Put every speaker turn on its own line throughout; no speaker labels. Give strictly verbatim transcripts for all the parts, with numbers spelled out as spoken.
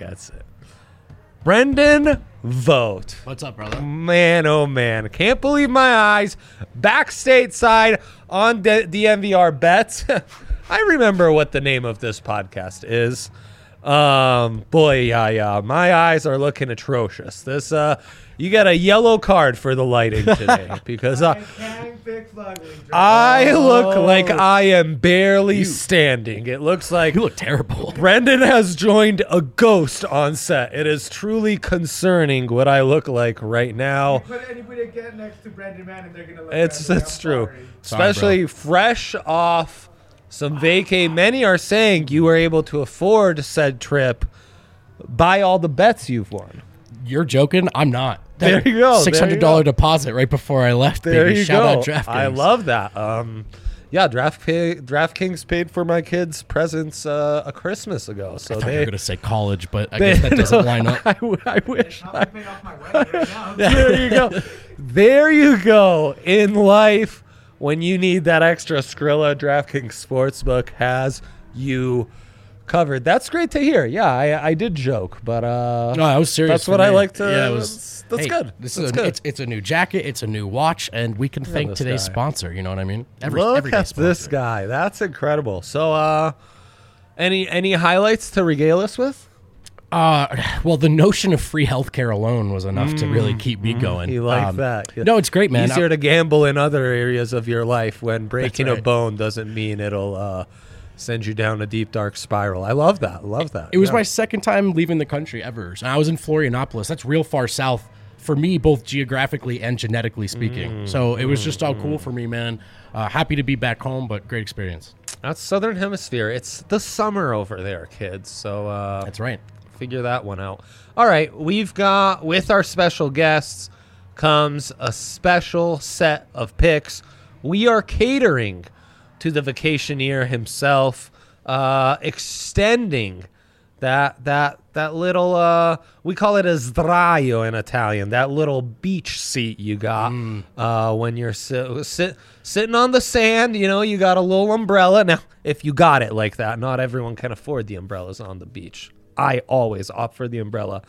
gets it. Brendan Vogt.
What's up, brother?
Man, oh man. Can't believe my eyes. Back stateside on D- DNVR Bets. I remember what the name of this podcast is. Um, boy, yeah, yeah. My eyes are looking atrocious. This, uh, you got a yellow card for the lighting today because uh, I look like I am barely standing. It looks like
You look terrible.
Brendan has joined a ghost on set. It is truly concerning what I look like right now.
Put anybody get next to Brendan Mann and they're gonna look
It's
Brendan.
it's
I'm
true,
sorry.
especially fresh off some vacay. Many are saying you were able to afford said trip by all the bets you've won.
You're joking? I'm not.
There you go.
Six hundred dollar deposit right before I left.
There
baby.
you
Shout
go.
out DraftKings.
I love that. Um, yeah, Draft pay, DraftKings paid for my kids' presents uh, a Christmas ago, so
I thought you
they.
were gonna say college, but I
they-
guess that doesn't
no,
line up.
I, w- I wish.
I'm
I,
paying off my wedding right now.
there you go. There you go. In life, when you need that extra Skrilla, DraftKings Sportsbook has you covered. That's great to hear. Yeah, I, I did joke, but uh,
No, I was serious.
that's
for
what I
me.
like to.
Yeah, it was.
that's that's
hey,
good.
This
that's
is a,
good.
it's it's a new jacket. It's a new watch, and we can thank
this
today's
guy.
sponsor. You know what I mean? Every,
Look
everyday
at this
sponsor.
guy. That's incredible. So, uh, any any highlights to regale us with?
Uh, well, the notion of free healthcare alone was enough to really keep me going.
You like
Um,
that?
No, it's great, man.
Easier to gamble in other areas of your life when breaking a
right.
bone doesn't mean it'll uh, send you down a deep dark spiral. I love that. Love that.
It was
Yeah.
my second time leaving the country ever. And I was in Florianopolis. That's real far south for me, both geographically and genetically speaking. So it was just all cool for me, man. Uh, happy to be back home, but great experience.
That's Southern Hemisphere. It's the summer over there, kids. So uh,
That's right.
figure that one out. All right, we've got, with our special guests comes a special set of picks. We are catering to the vacationeer himself, uh, extending that that that little uh, we call it a sdraio in Italian, that little beach seat you got uh, when you're sit, sit, sitting on the sand. You know, you got a little umbrella. Now, if you got it like that, not everyone can afford the umbrellas on the beach. I always opt for the umbrella,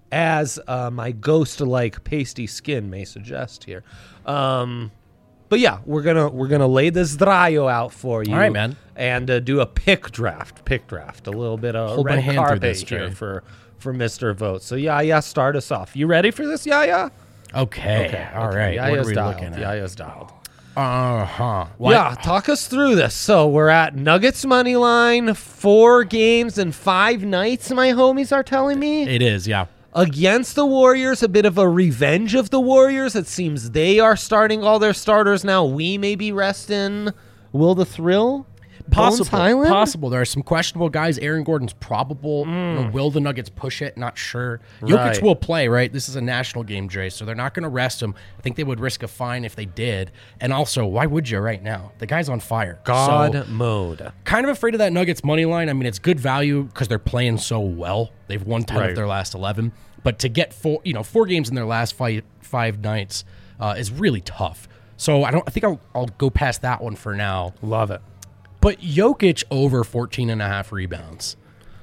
as uh, my ghost-like pasty skin may suggest here. Um, but yeah, we're gonna we're gonna lay this sdraio out for you.
All right, man.
And uh, do a pick draft, pick draft, a little bit of
Hold my
red
hand through
carpet
this,
here
Jay.
for for Mister Vote. So yeah, yeah, start us off. You ready for this? Yeah, yeah.
Okay. All
okay.
right. What are
Yaya's
we
dialed.
looking at?
Yaya's dialed.
Uh huh.
Yeah, talk us through this. So we're at Nuggets money line, four games and five nights. My homies are telling me
It is, yeah.
against the Warriors, a bit of a revenge of the Warriors. It seems they are starting all their starters now. We may be resting Will the Thrill, Bones
Possible.
Highland?
Possible. There are some questionable guys. Aaron Gordon's probable. You know, will the Nuggets push it? Not sure. Jokic
Right.
will play, right? This is a national game, Dre, so they're not going to rest him. I think they would risk a fine if they did. And also, why would you right now? The guy's on fire.
God
So,
mode.
kind of afraid of that Nuggets money line. I mean, it's good value because they're playing so well. They've won ten
Right.
of their last eleven. But to get four, you know, four games in their last five five nights uh, is really tough. So I don't. I think I'll, I'll go past that one for now.
Love it.
But Jokic over fourteen and a half rebounds.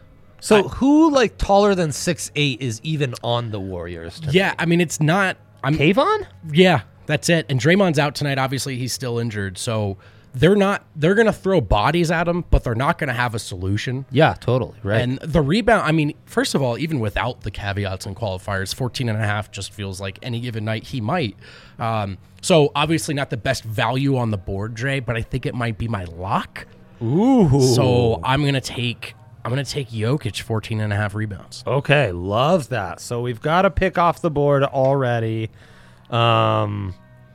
So who like taller than six eight is even on the Warriors? To
Yeah, I mean, it's not. I'm.
Kayvon?
Yeah, that's it. And Draymond's out tonight. Obviously, he's still injured. So they're not. They're going to throw bodies at him, but they're not going to have a solution.
Yeah, totally. Right.
And the rebound, I mean, first of all, even without the caveats and qualifiers, fourteen and a half just feels like any given night he might. Um, so obviously not the best value on the board, Dre, but I think it might be my lock.
Ooh.
So I'm going to take, I'm going to take Jokic fourteen and a half rebounds.
Okay, love that. So we've got a pick off the board already. Um,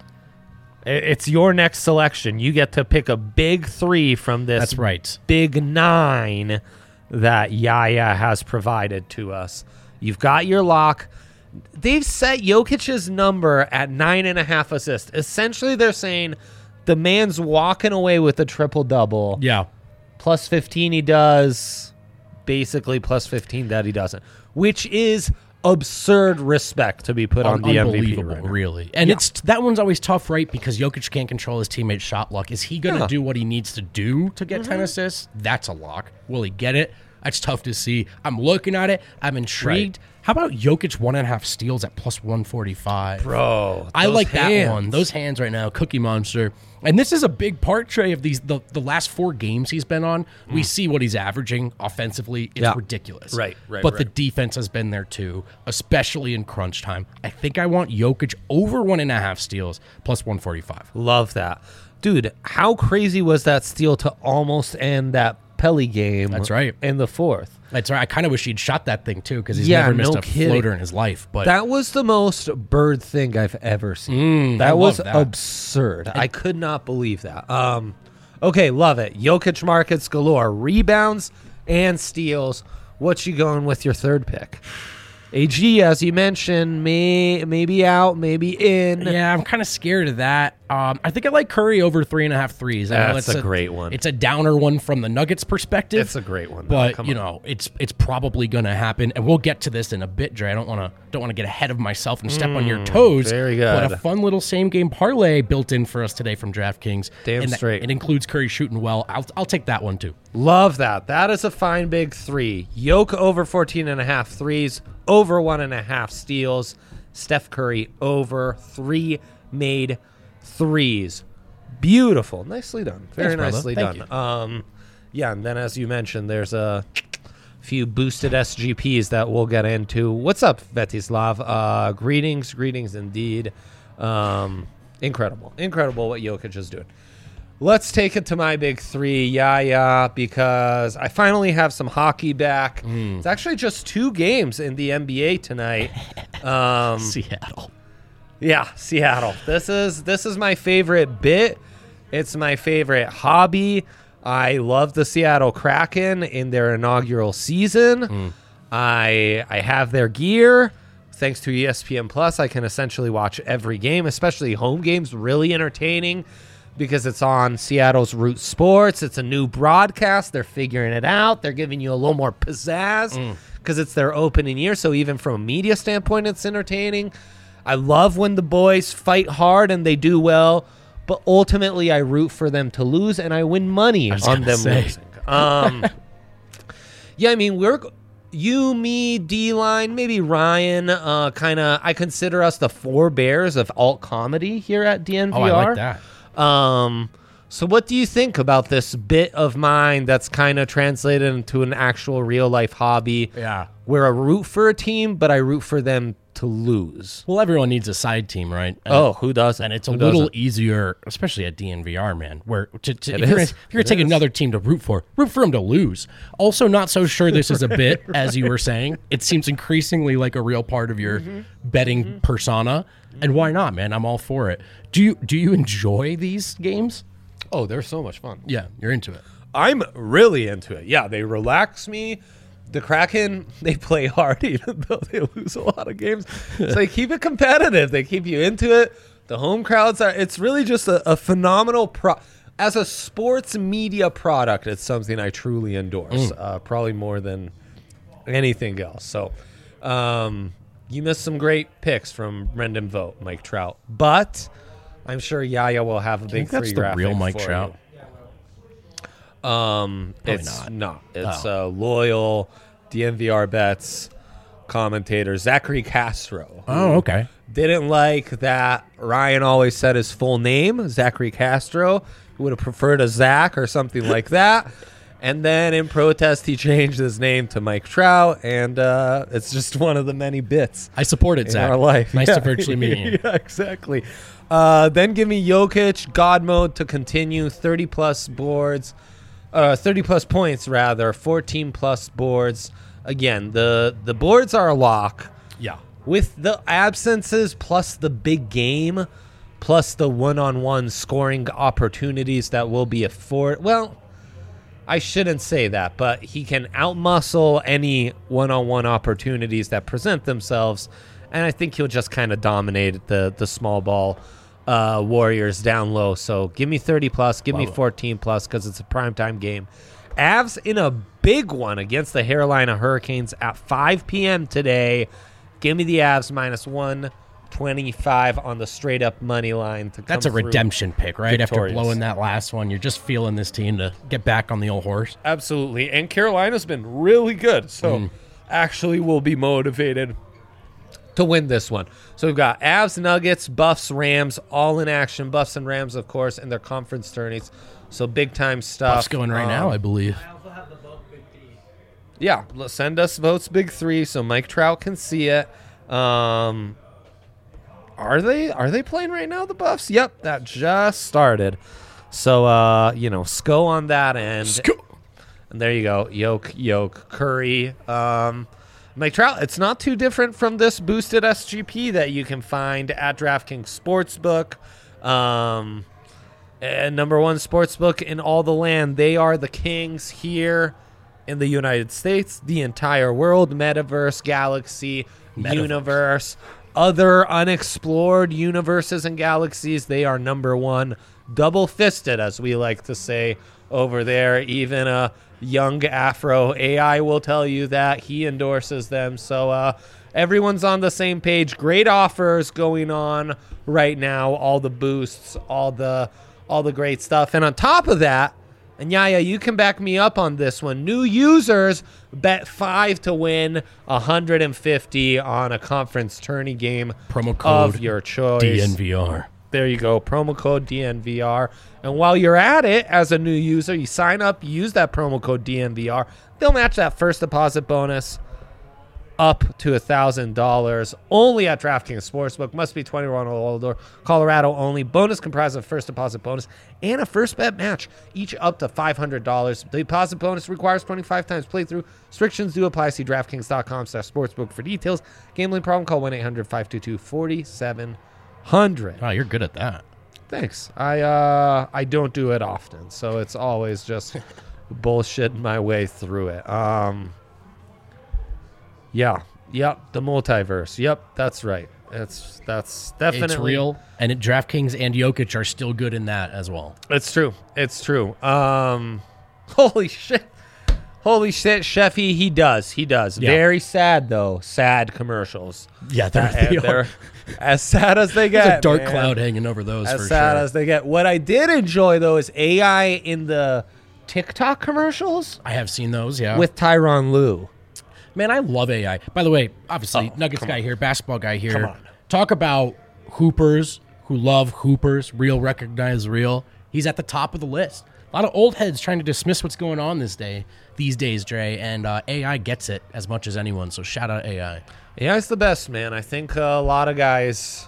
i- it's your next selection. You get to pick a big three from this
That's right.
big nine that Yaya has provided to us. You've got your lock. They've set Jokic's number at nine and a half assists. Essentially, they're saying the man's walking away with a triple-double.
Yeah.
Plus fifteen he does, basically plus fifteen that he doesn't, which is absurd respect to be put on the M V P.
Unbelievable,
Right now.
really. And
Yeah.
it's that one's always tough, right? Because Jokic can't control his teammates' shot luck. Is he going to
Yeah.
do what he needs to do to get ten assists? That's a lock. Will he get it? That's tough to see. I'm looking at it. I'm intrigued.
Right.
How about Jokic one and a half steals at plus one forty-five?
Bro,
I
those
like that
hands.
one. Those hands right now, Cookie Monster. And this is a big part, Trey, of these the, the last four games he's been on. We see what he's averaging offensively. It's
Yeah.
ridiculous.
Right, right,
But the
right.
defense has been there too, especially in crunch time. I think I want Jokic over one and a half steals plus one forty-five.
Love that. Dude, how crazy was that steal to almost end that Pelly game?
That's right.
In the fourth.
That's right. I kind of wish he'd shot that thing too because he's
Yeah,
never missed
no
a
kidding.
floater in his life. But
That was the most bird thing I've ever seen.
Mm,
that
I
was
love that.
absurd. I could not believe that. Um, okay, love it. Jokic markets galore, rebounds and steals. What you going with your third pick? A G, as you mentioned, may maybe out, maybe in.
yeah, I'm kind of scared of that. Um, I think I like Curry over three and a half threes. I know
That's a great one.
It's a downer one from the Nuggets perspective.
It's a great one, though.
but
Come
you
on.
know, it's it's probably going to happen, and we'll get to this in a bit, Dre. I don't want to don't want to get ahead of myself and step on your toes.
Mm, very
But
good.
a fun little same game parlay built in for us today from DraftKings.
Damn
and that-
straight.
It includes Curry shooting well. I'll I'll take that one too.
Love that. That is a fine big three. Yoke over fourteen and a half threes, over one and a half steals. Steph Curry over three made threes. Beautiful. Nicely done. Very
Thanks, brother.
nicely
Thank
done. Um, yeah, and then as you mentioned, there's a few boosted S G Ps that we'll get into. What's up, Vetislav? Uh, greetings, greetings indeed. Um, incredible. Incredible what Jokic is doing. Let's take it to my big three, yeah, yeah, because I finally have some hockey back. It's actually just two games in the N B A tonight. Um,
Seattle.
yeah, Seattle. This is this is my favorite bit. It's my favorite hobby. I love the Seattle Kraken in their inaugural season. I I have their gear. Thanks to E S P N Plus, I can essentially watch every game, especially home games. Really entertaining because it's on Seattle's Root Sports. It's a new broadcast. They're figuring it out. They're giving you a little more pizzazz because it's their opening year. So even from a media standpoint, it's entertaining. I love when the boys fight hard and they do well, but ultimately I root for them to lose and I win money
was
on
gonna
them
say.
losing. Um, yeah, I mean, we're you, me, D-Line, maybe Ryan, uh, kind of, I consider us the forebears of alt comedy here at D N V R.
Oh, I like that.
Um, so what do you think about this bit of mine that's kind of translated into an actual real life hobby?
Yeah.
Where I root for a team, but I root for them to lose.
Well, everyone needs a side team, right? And
Oh, who doesn't?
And it's a
Who
little
doesn't?
easier, especially at D N V R, man, where to, to,
It
if you're
is.
gonna, if you're
It
going to take
is.
another team to root for, root for them to lose. Also, not so sure this is a bit, as you were saying. It seems increasingly like a real part of your
Mm-hmm.
betting persona. And why not, man? I'm all for it. Do you do you enjoy these games?
Oh, they're so much fun.
Yeah, you're into it.
I'm really into it. Yeah, they relax me. The Kraken, they play hard even though they lose a lot of games. So they keep it competitive. They keep you into it. The home crowds are, it's really just a, a phenomenal pro. As a sports media product, it's something I truly endorse, uh, probably more than anything else. So um, you missed some great picks from Brendan Vogt, Mike Trout. But I'm sure Yaya will have a big
think that's
three
the
graphic
real Mike
for
Trout?
you. Um,
Probably
it's
not.
not. It's
Oh.
uh, loyal D N V R bets commentator Zachary Castro.
Oh,
who
okay.
Didn't like that Ryan always said his full name, Zachary Castro. He would have preferred a Zach or something like that. And then in protest, he changed his name to Mike Trout, and uh, it's just one of the many bits
I support it,
in
Zach.
our life.
Nice
Yeah.
to virtually meet you.
Yeah, exactly. Uh, then give me Jokic, God mode to continue, thirty plus boards, uh, thirty plus points rather, fourteen plus boards. Again, the the boards are a lock.
Yeah.
With the absences plus the big game, plus the one-on-one scoring opportunities that will be afforded. Well, I shouldn't say that, but he can outmuscle any one-on-one opportunities that present themselves, and I think he'll just kind of dominate the the small ball uh, Warriors down low. So give me thirty plus, give me
Love it.
fourteen plus because it's a primetime game. Avs in a big one against the Carolina Hurricanes at five p.m. today. Give me the Avs minus one twenty-five on the straight up money line to come
That's a
through
redemption pick, right?
victorious.
After blowing that last one, you're just feeling this team to get back on the old horse.
Absolutely. And Carolina's been really good. So
Mm.
actually will be motivated to win this one. So we've got Avs, Nuggets, Buffs, Rams, all in action. Buffs and Rams, of course, in their conference tourneys. So big time stuff.
Buffs going right now, I believe.
I also have the vote big three.
Yeah, l- send us votes big three so Mike Trout can see it. Um, are they are they playing right now, the Buffs? Yep, that just started. So uh, you know, Sco on that end. And there you go. Yoke, Yoke, Curry. Um, Mike Trout, it's not too different from this boosted S G P that you can find at DraftKings Sportsbook. Um, and number one sportsbook in all the land. They are the kings here in the United States, the entire world, metaverse, galaxy,
Metaverse.
universe, other unexplored universes and galaxies. They are number one, double fisted, as we like to say over there. Even a young Afro A I will tell you that he endorses them. So uh, everyone's on the same page. Great offers going on right now. All the boosts, all the all the great stuff. And on top of that, and Yaya, you can back me up on this one. New users bet five to win one hundred fifty on a conference tourney game
Promo code
of your choice.
D N V R.
There you go. Promo code D N V R. And while you're at it, as a new user, you sign up, you use that promo code D N V R. They'll match that first deposit bonus up to one thousand dollars only at DraftKings Sportsbook. Must be twenty-one or older. Colorado only. Bonus comprised of first deposit bonus and a first bet match, each up to five hundred dollars. The deposit bonus requires twenty-five times playthrough. Restrictions do apply. See DraftKings.com slash sportsbook for details. Gambling problem? Call one eight hundred five two two four seven zero zero.
Oh, you're good at that.
Thanks. I uh I don't do it often, so it's always just bullshitting my way through it. Um Yeah. Yep, the multiverse. Yep, that's right. It's that's definitely
It's real, and it, DraftKings and Jokic are still good in that as well.
It's true. It's true. Um holy shit. Holy shit, Sheffy, he does. He does.
Yeah.
Very sad though. Sad commercials.
Yeah,
Uh, they're as sad as they get.
There's a dark
man.
cloud hanging over those
As
for
sad
sure.
as they get. What I did enjoy though is A I in the TikTok commercials
I have seen those, yeah.
with Tyronn Lue.
Man, I love A I. By the way, obviously,
Oh,
Nuggets
come
guy
on.
here, basketball guy here.
Come on.
Talk about hoopers who love hoopers, real recognize real. He's at the top of the list. A lot of old heads trying to dismiss what's going on this day, these days, Dre, and uh, A I gets it as much as anyone. So shout out A I.
Yeah, it's the best, man. I think uh, a lot of guys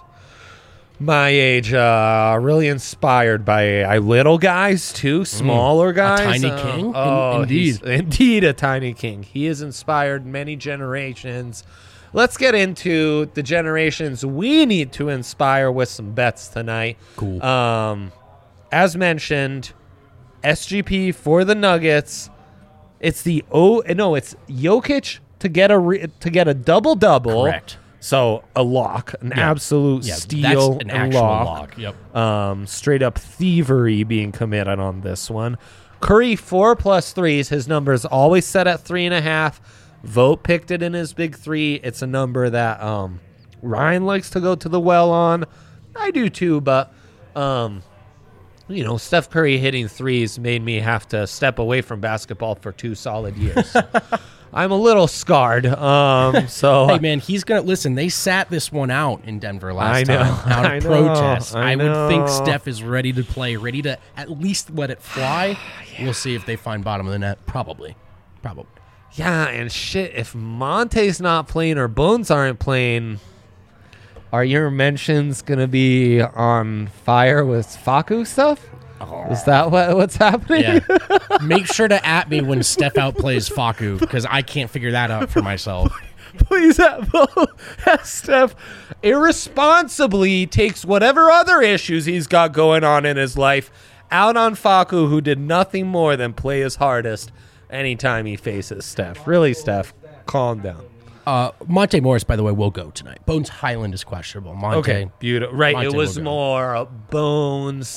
my age uh, are really inspired by A I. Little guys, too. Smaller guys.
tiny
uh,
king? In-
Oh,
indeed.
he's- Indeed, a tiny king. He has inspired many generations. Let's get into the generations we need to inspire with some bets tonight.
Cool.
Um, as mentioned, S G P for the Nuggets. It's the oh no, it's Jokic to get a re, to get a double double.
Correct.
So a lock, an
Yeah.
absolute
Yeah,
steal,
that's an
and
actual
lock.
lock. Yep.
Um, straight up thievery being committed on this one. Curry four plus threes. His number is always set at three and a half. Vote picked it in his big three. It's a number that um, Ryan likes to go to the well on. I do too, but um, you know, Steph Curry hitting threes made me have to step away from basketball for two solid years. I'm a little scarred. Um, so
Hey, man, he's going to listen. They sat this one out in Denver last
I know,
time out
I
of
know,
protest.
I
I, would think
know.
Steph is ready to play, ready to at least let it fly. We'll see if they find bottom of the net. Probably. Probably.
yeah, and shit, if Monte's not playing or Bones aren't playing, are your mentions gonna be on fire with Faku stuff? Is that what what's happening?
Yeah. Make sure to at me when Steph outplays Faku because I can't figure that out for myself.
Please have have Steph irresponsibly takes whatever other issues he's got going on in his life out on Faku, who did nothing more than play his hardest anytime he faces Steph. Really, Steph, calm down.
Uh, Monte Morris, by the way, will go tonight. Bones Highland is questionable. Monte.
Okay, beautiful. Right,
Monte
it was
will go.
more uh, Bones,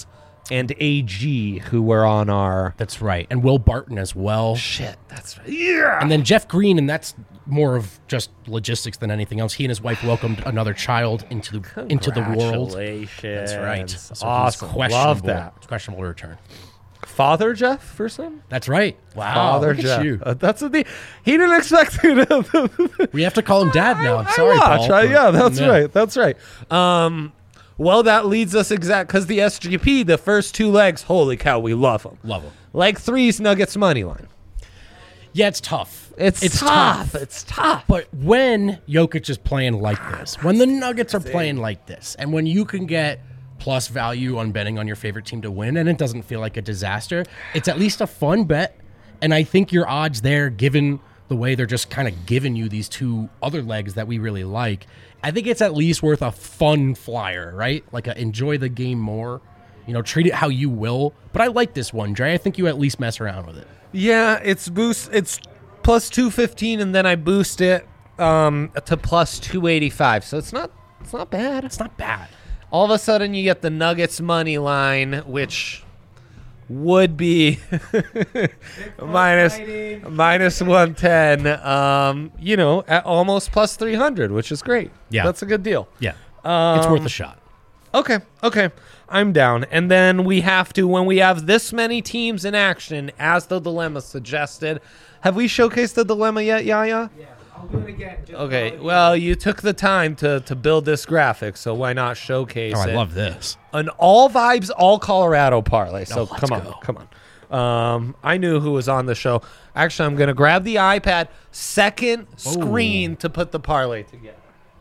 and A G, who were on our
That's right. And Will Barton as well.
shit. That's right. Yeah.
And then Jeff Green, and that's more of just logistics than anything else. He and his wife welcomed another child into the into the world.
Congratulations.
That's right. So he's
awesome.
questionable.
Love that.
Questionable return.
Father Jeff for some.
That's right. Wow.
Father
look at
Jeff.
you.
Uh, that's what the he didn't expect me to.
We have to call him Dad now.
I
Sorry,
watch.
Paul.
I- yeah, that's
Yeah.
right. That's right. Um, well, that leads us exact because the S G P, the first two legs, holy cow, we love them.
Love him.
Leg three's Nuggets money line.
Yeah, it's tough.
It's, tough. It's tough.
But when Jokic is playing like this, when the Nuggets are playing like this, and when you can get plus value on betting on your favorite team to win, and it doesn't feel like a disaster, it's at least a fun bet. And I think your odds there, given the way they're just kind of giving you these two other legs that we really like, I think it's at least worth a fun flyer, right? Like a enjoy the game more. You know, treat it how you will. But I like this one, Dre. I think you at least mess around with it.
Yeah, it's boost. It's plus two fifteen, and then I boost it um, to plus two eighty five. So it's not. It's not bad.
It's not bad.
All of a sudden, you get the Nuggets money line, which would be minus
fighting.
minus one ten. Um, you know, at almost plus three hundred, which is great.
Yeah.
That's a good deal.
Yeah. it's worth a shot.
Okay, okay. I'm down. And then we have to, when we have this many teams in action, as the dilemma suggested. Have we showcased the dilemma yet, Yaya?
Yeah, I'll do it again. Just
Okay,
for-
well, you took the time to, to build this graphic, so why not showcase
Oh, I
it?
love this.
An all vibes, all Colorado parlay. So
Oh, let's
come on,
go.
come on. Um, I knew who was on the show. Actually, I'm going to grab the iPad, second screen to put the parlay together.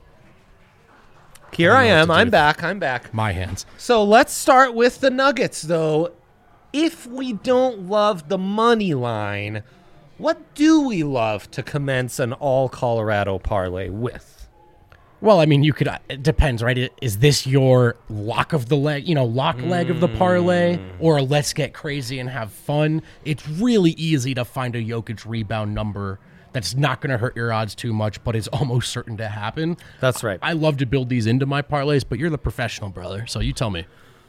Here I,
I don't know what
am.
to
I'm
do.
back. I'm back.
My hands.
So let's start with the Nuggets, though. If we don't love the money line, what do we love to commence an all Colorado parlay with?
Well, I mean, you could. uh, It depends, right? I- Is this your lock of the leg, you know, lock leg of the parlay, or a let's get crazy and have fun? It's really easy to find a Jokic rebound number that's not going to hurt your odds too much, but is almost certain to happen.
That's right.
I love to build these into my parlays, but you're the professional, brother. So you tell me.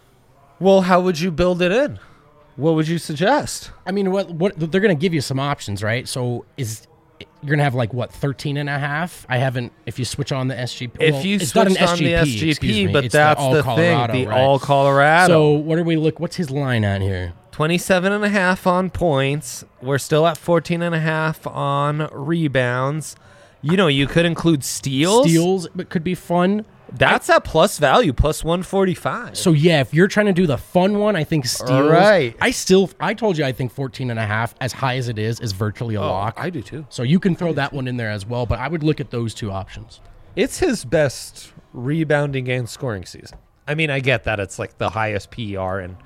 Well, how would you build it in? What would you suggest?
I mean, what what they're going to give you some options, right? So is you're going to have like what thirteen and a half? I haven't. If you switch on the S G P,
If
well,
you
it's not an
switched on the S
S G P,
G
excuse
P,
me,
but
it's
that's
all
the
Colorado,
thing, the
right?
all Colorado.
So what are we look? What's his line at here?
twenty-seven and a half on points. We're still at fourteen and a half on rebounds. You know, you could include steals.
Steals, but could be fun.
That's at plus value, plus one forty-five.
So yeah, if you're trying to do the fun one, I think steals.
All right.
I still, I told you, I think fourteen and a half, as high as it is, is virtually a lock.
I do too.
So you can throw that one in there as well, but I would look at those two options.
It's his best rebounding and scoring season. I mean, I get that it's like the highest P E R in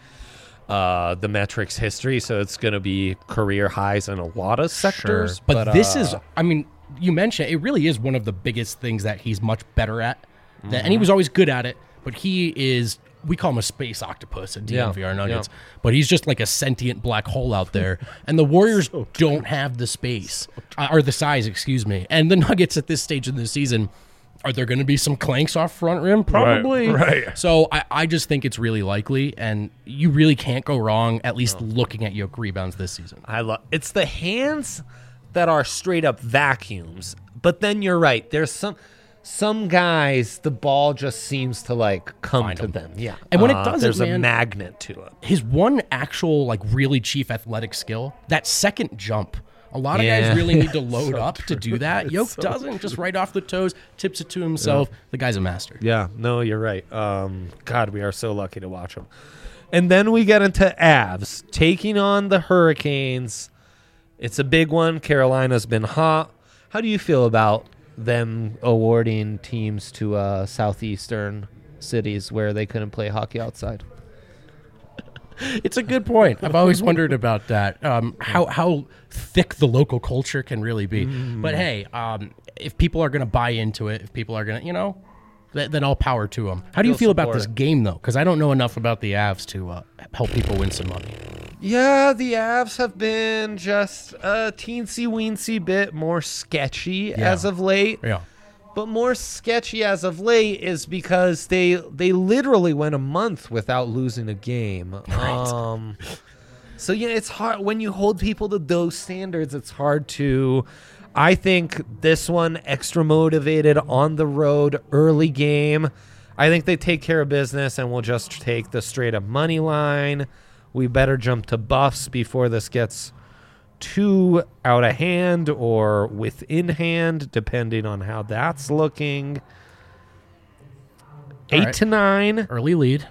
uh, the metrics history, so it's going to be career highs in a lot of sectors.
But, this
uh,
is, I mean, you mentioned it really is one of the biggest things that he's much better at. That, and he was always good at it, but he is, we call him a space octopus at D N V R
Yeah,
Nuggets,
yeah.
but he's just like a sentient black hole out there. And the Warriors don't have the space, uh, or the size, excuse me. And the Nuggets at this stage of the season, are there going to be some clanks off front rim? Probably.
right.
So I, I just think it's really likely, and you really can't go wrong, at least looking at Yoke rebounds this season.
I love it's the hands that are straight up vacuums. But then you're right. There's some some guys the ball just seems to like come
Find
to
'em.
them. Yeah.
And when it
Uh,
doesn't,
there's a
man-
magnet to it.
His one actual like really chief athletic skill, that second jump. A lot of
Yeah.
guys really need to load
So
up to do that. Yoke doesn't, just right off the toes, tips it to himself. The guy's a master.
Yeah, no, you're right. Um, God, we are so lucky to watch him. And then we get into Avs taking on the Hurricanes. It's a big one. Carolina's been hot. How do you feel about them awarding teams to uh, southeastern cities where they couldn't play hockey outside?
It's a good point. I've always wondered about that. Um, how how thick the local culture can really be. But hey, um, if people are going to buy into it, if people are going to, you know, th- then all power to them. How do you
You'll
feel about
support
this
it.
game though? Because I don't know enough about the Avs to uh, help people win some money.
Yeah, the Avs have been just a teensy weensy bit more sketchy as of late.
Yeah.
but more sketchy as of late is because they they literally went a month without losing a game.
Right.
Um, so yeah, it's hard when you hold people to those standards. It's hard to. I think this one extra motivated on the road early game. I think they take care of business and we'll just take the straight up money line. We better jump to buffs before this gets too out of hand or within hand, depending on how that's looking.
All
Eight
right.
to nine.
Early lead.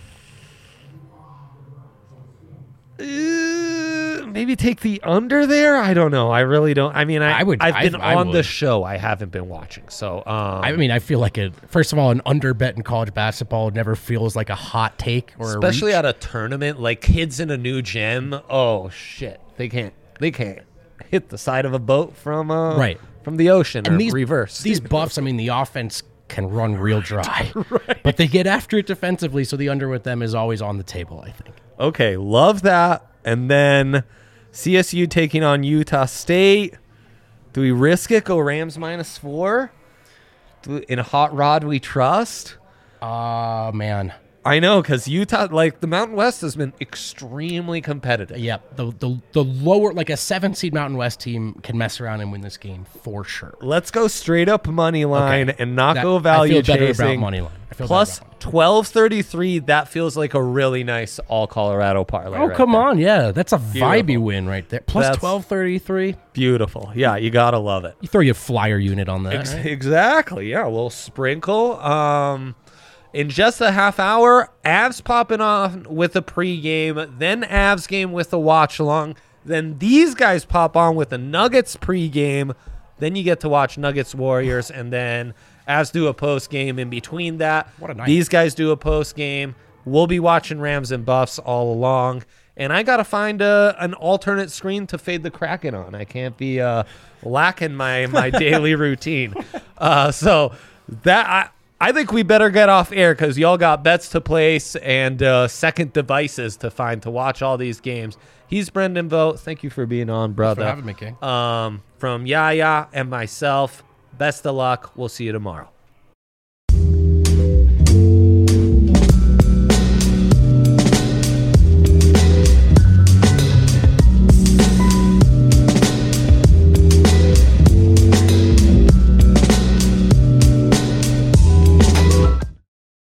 Uh, maybe take the under there. I don't know. I really don't. I mean, I,
I would-
I've
I-
been
I
on the
would.
show. I haven't been watching. So, um,
I mean, I feel like it. First of all, an under bet in college basketball never feels like a hot take or
especially
a reach.
at a tournament, like kids in a new gym. Oh shit, they can't. They can't hit the side of a boat from uh,
Right.
from the ocean or
And these
reverse.
These buffs. I mean, the offense can run real dry, but they get after it defensively. So the under with them is always on the table, I think.
Okay, love that. And then C S U taking on Utah State. Do we risk it? Go Rams minus four? Do, in a hot rod we trust?
Oh, man.
I know, because Utah, like the Mountain West has been extremely competitive.
Yep. The, the, the lower, like a seven seed Mountain West team can mess around and win this game for sure.
Let's go straight up money line
Okay.
and not
That-
go value
I feel better
chasing.
about money line. I feel
Plus
better about money.
twelve thirty-three, that feels like a really nice all Colorado parlay.
Oh,
right
come
there.
on. Yeah. That's a vibey
Beautiful.
win right there. Plus
That's-
twelve thirty-three.
Beautiful. Yeah, you got to love it.
You throw your flyer unit on that.
Ex-
right?
Exactly. Yeah, a little sprinkle. Um, in just a half hour, Avs popping off with a pregame, then Avs game with a watch along. Then these guys pop on with the Nuggets pregame. Then you get to watch Nuggets Warriors, and then Avs do a post game in between that.
What a night.
These guys do a post game. We'll be watching Rams and Buffs all along. And I got to find a, an alternate screen to fade the Kraken on. I can't be uh, lacking my, my daily routine. Uh, so that I, I think we better get off air because y'all got bets to place and uh, second devices to find to watch all these games. He's Brendan Vogt. Thank you for being on, brother.
having me, King.
Um, from Yaya and myself, best of luck. We'll see you tomorrow.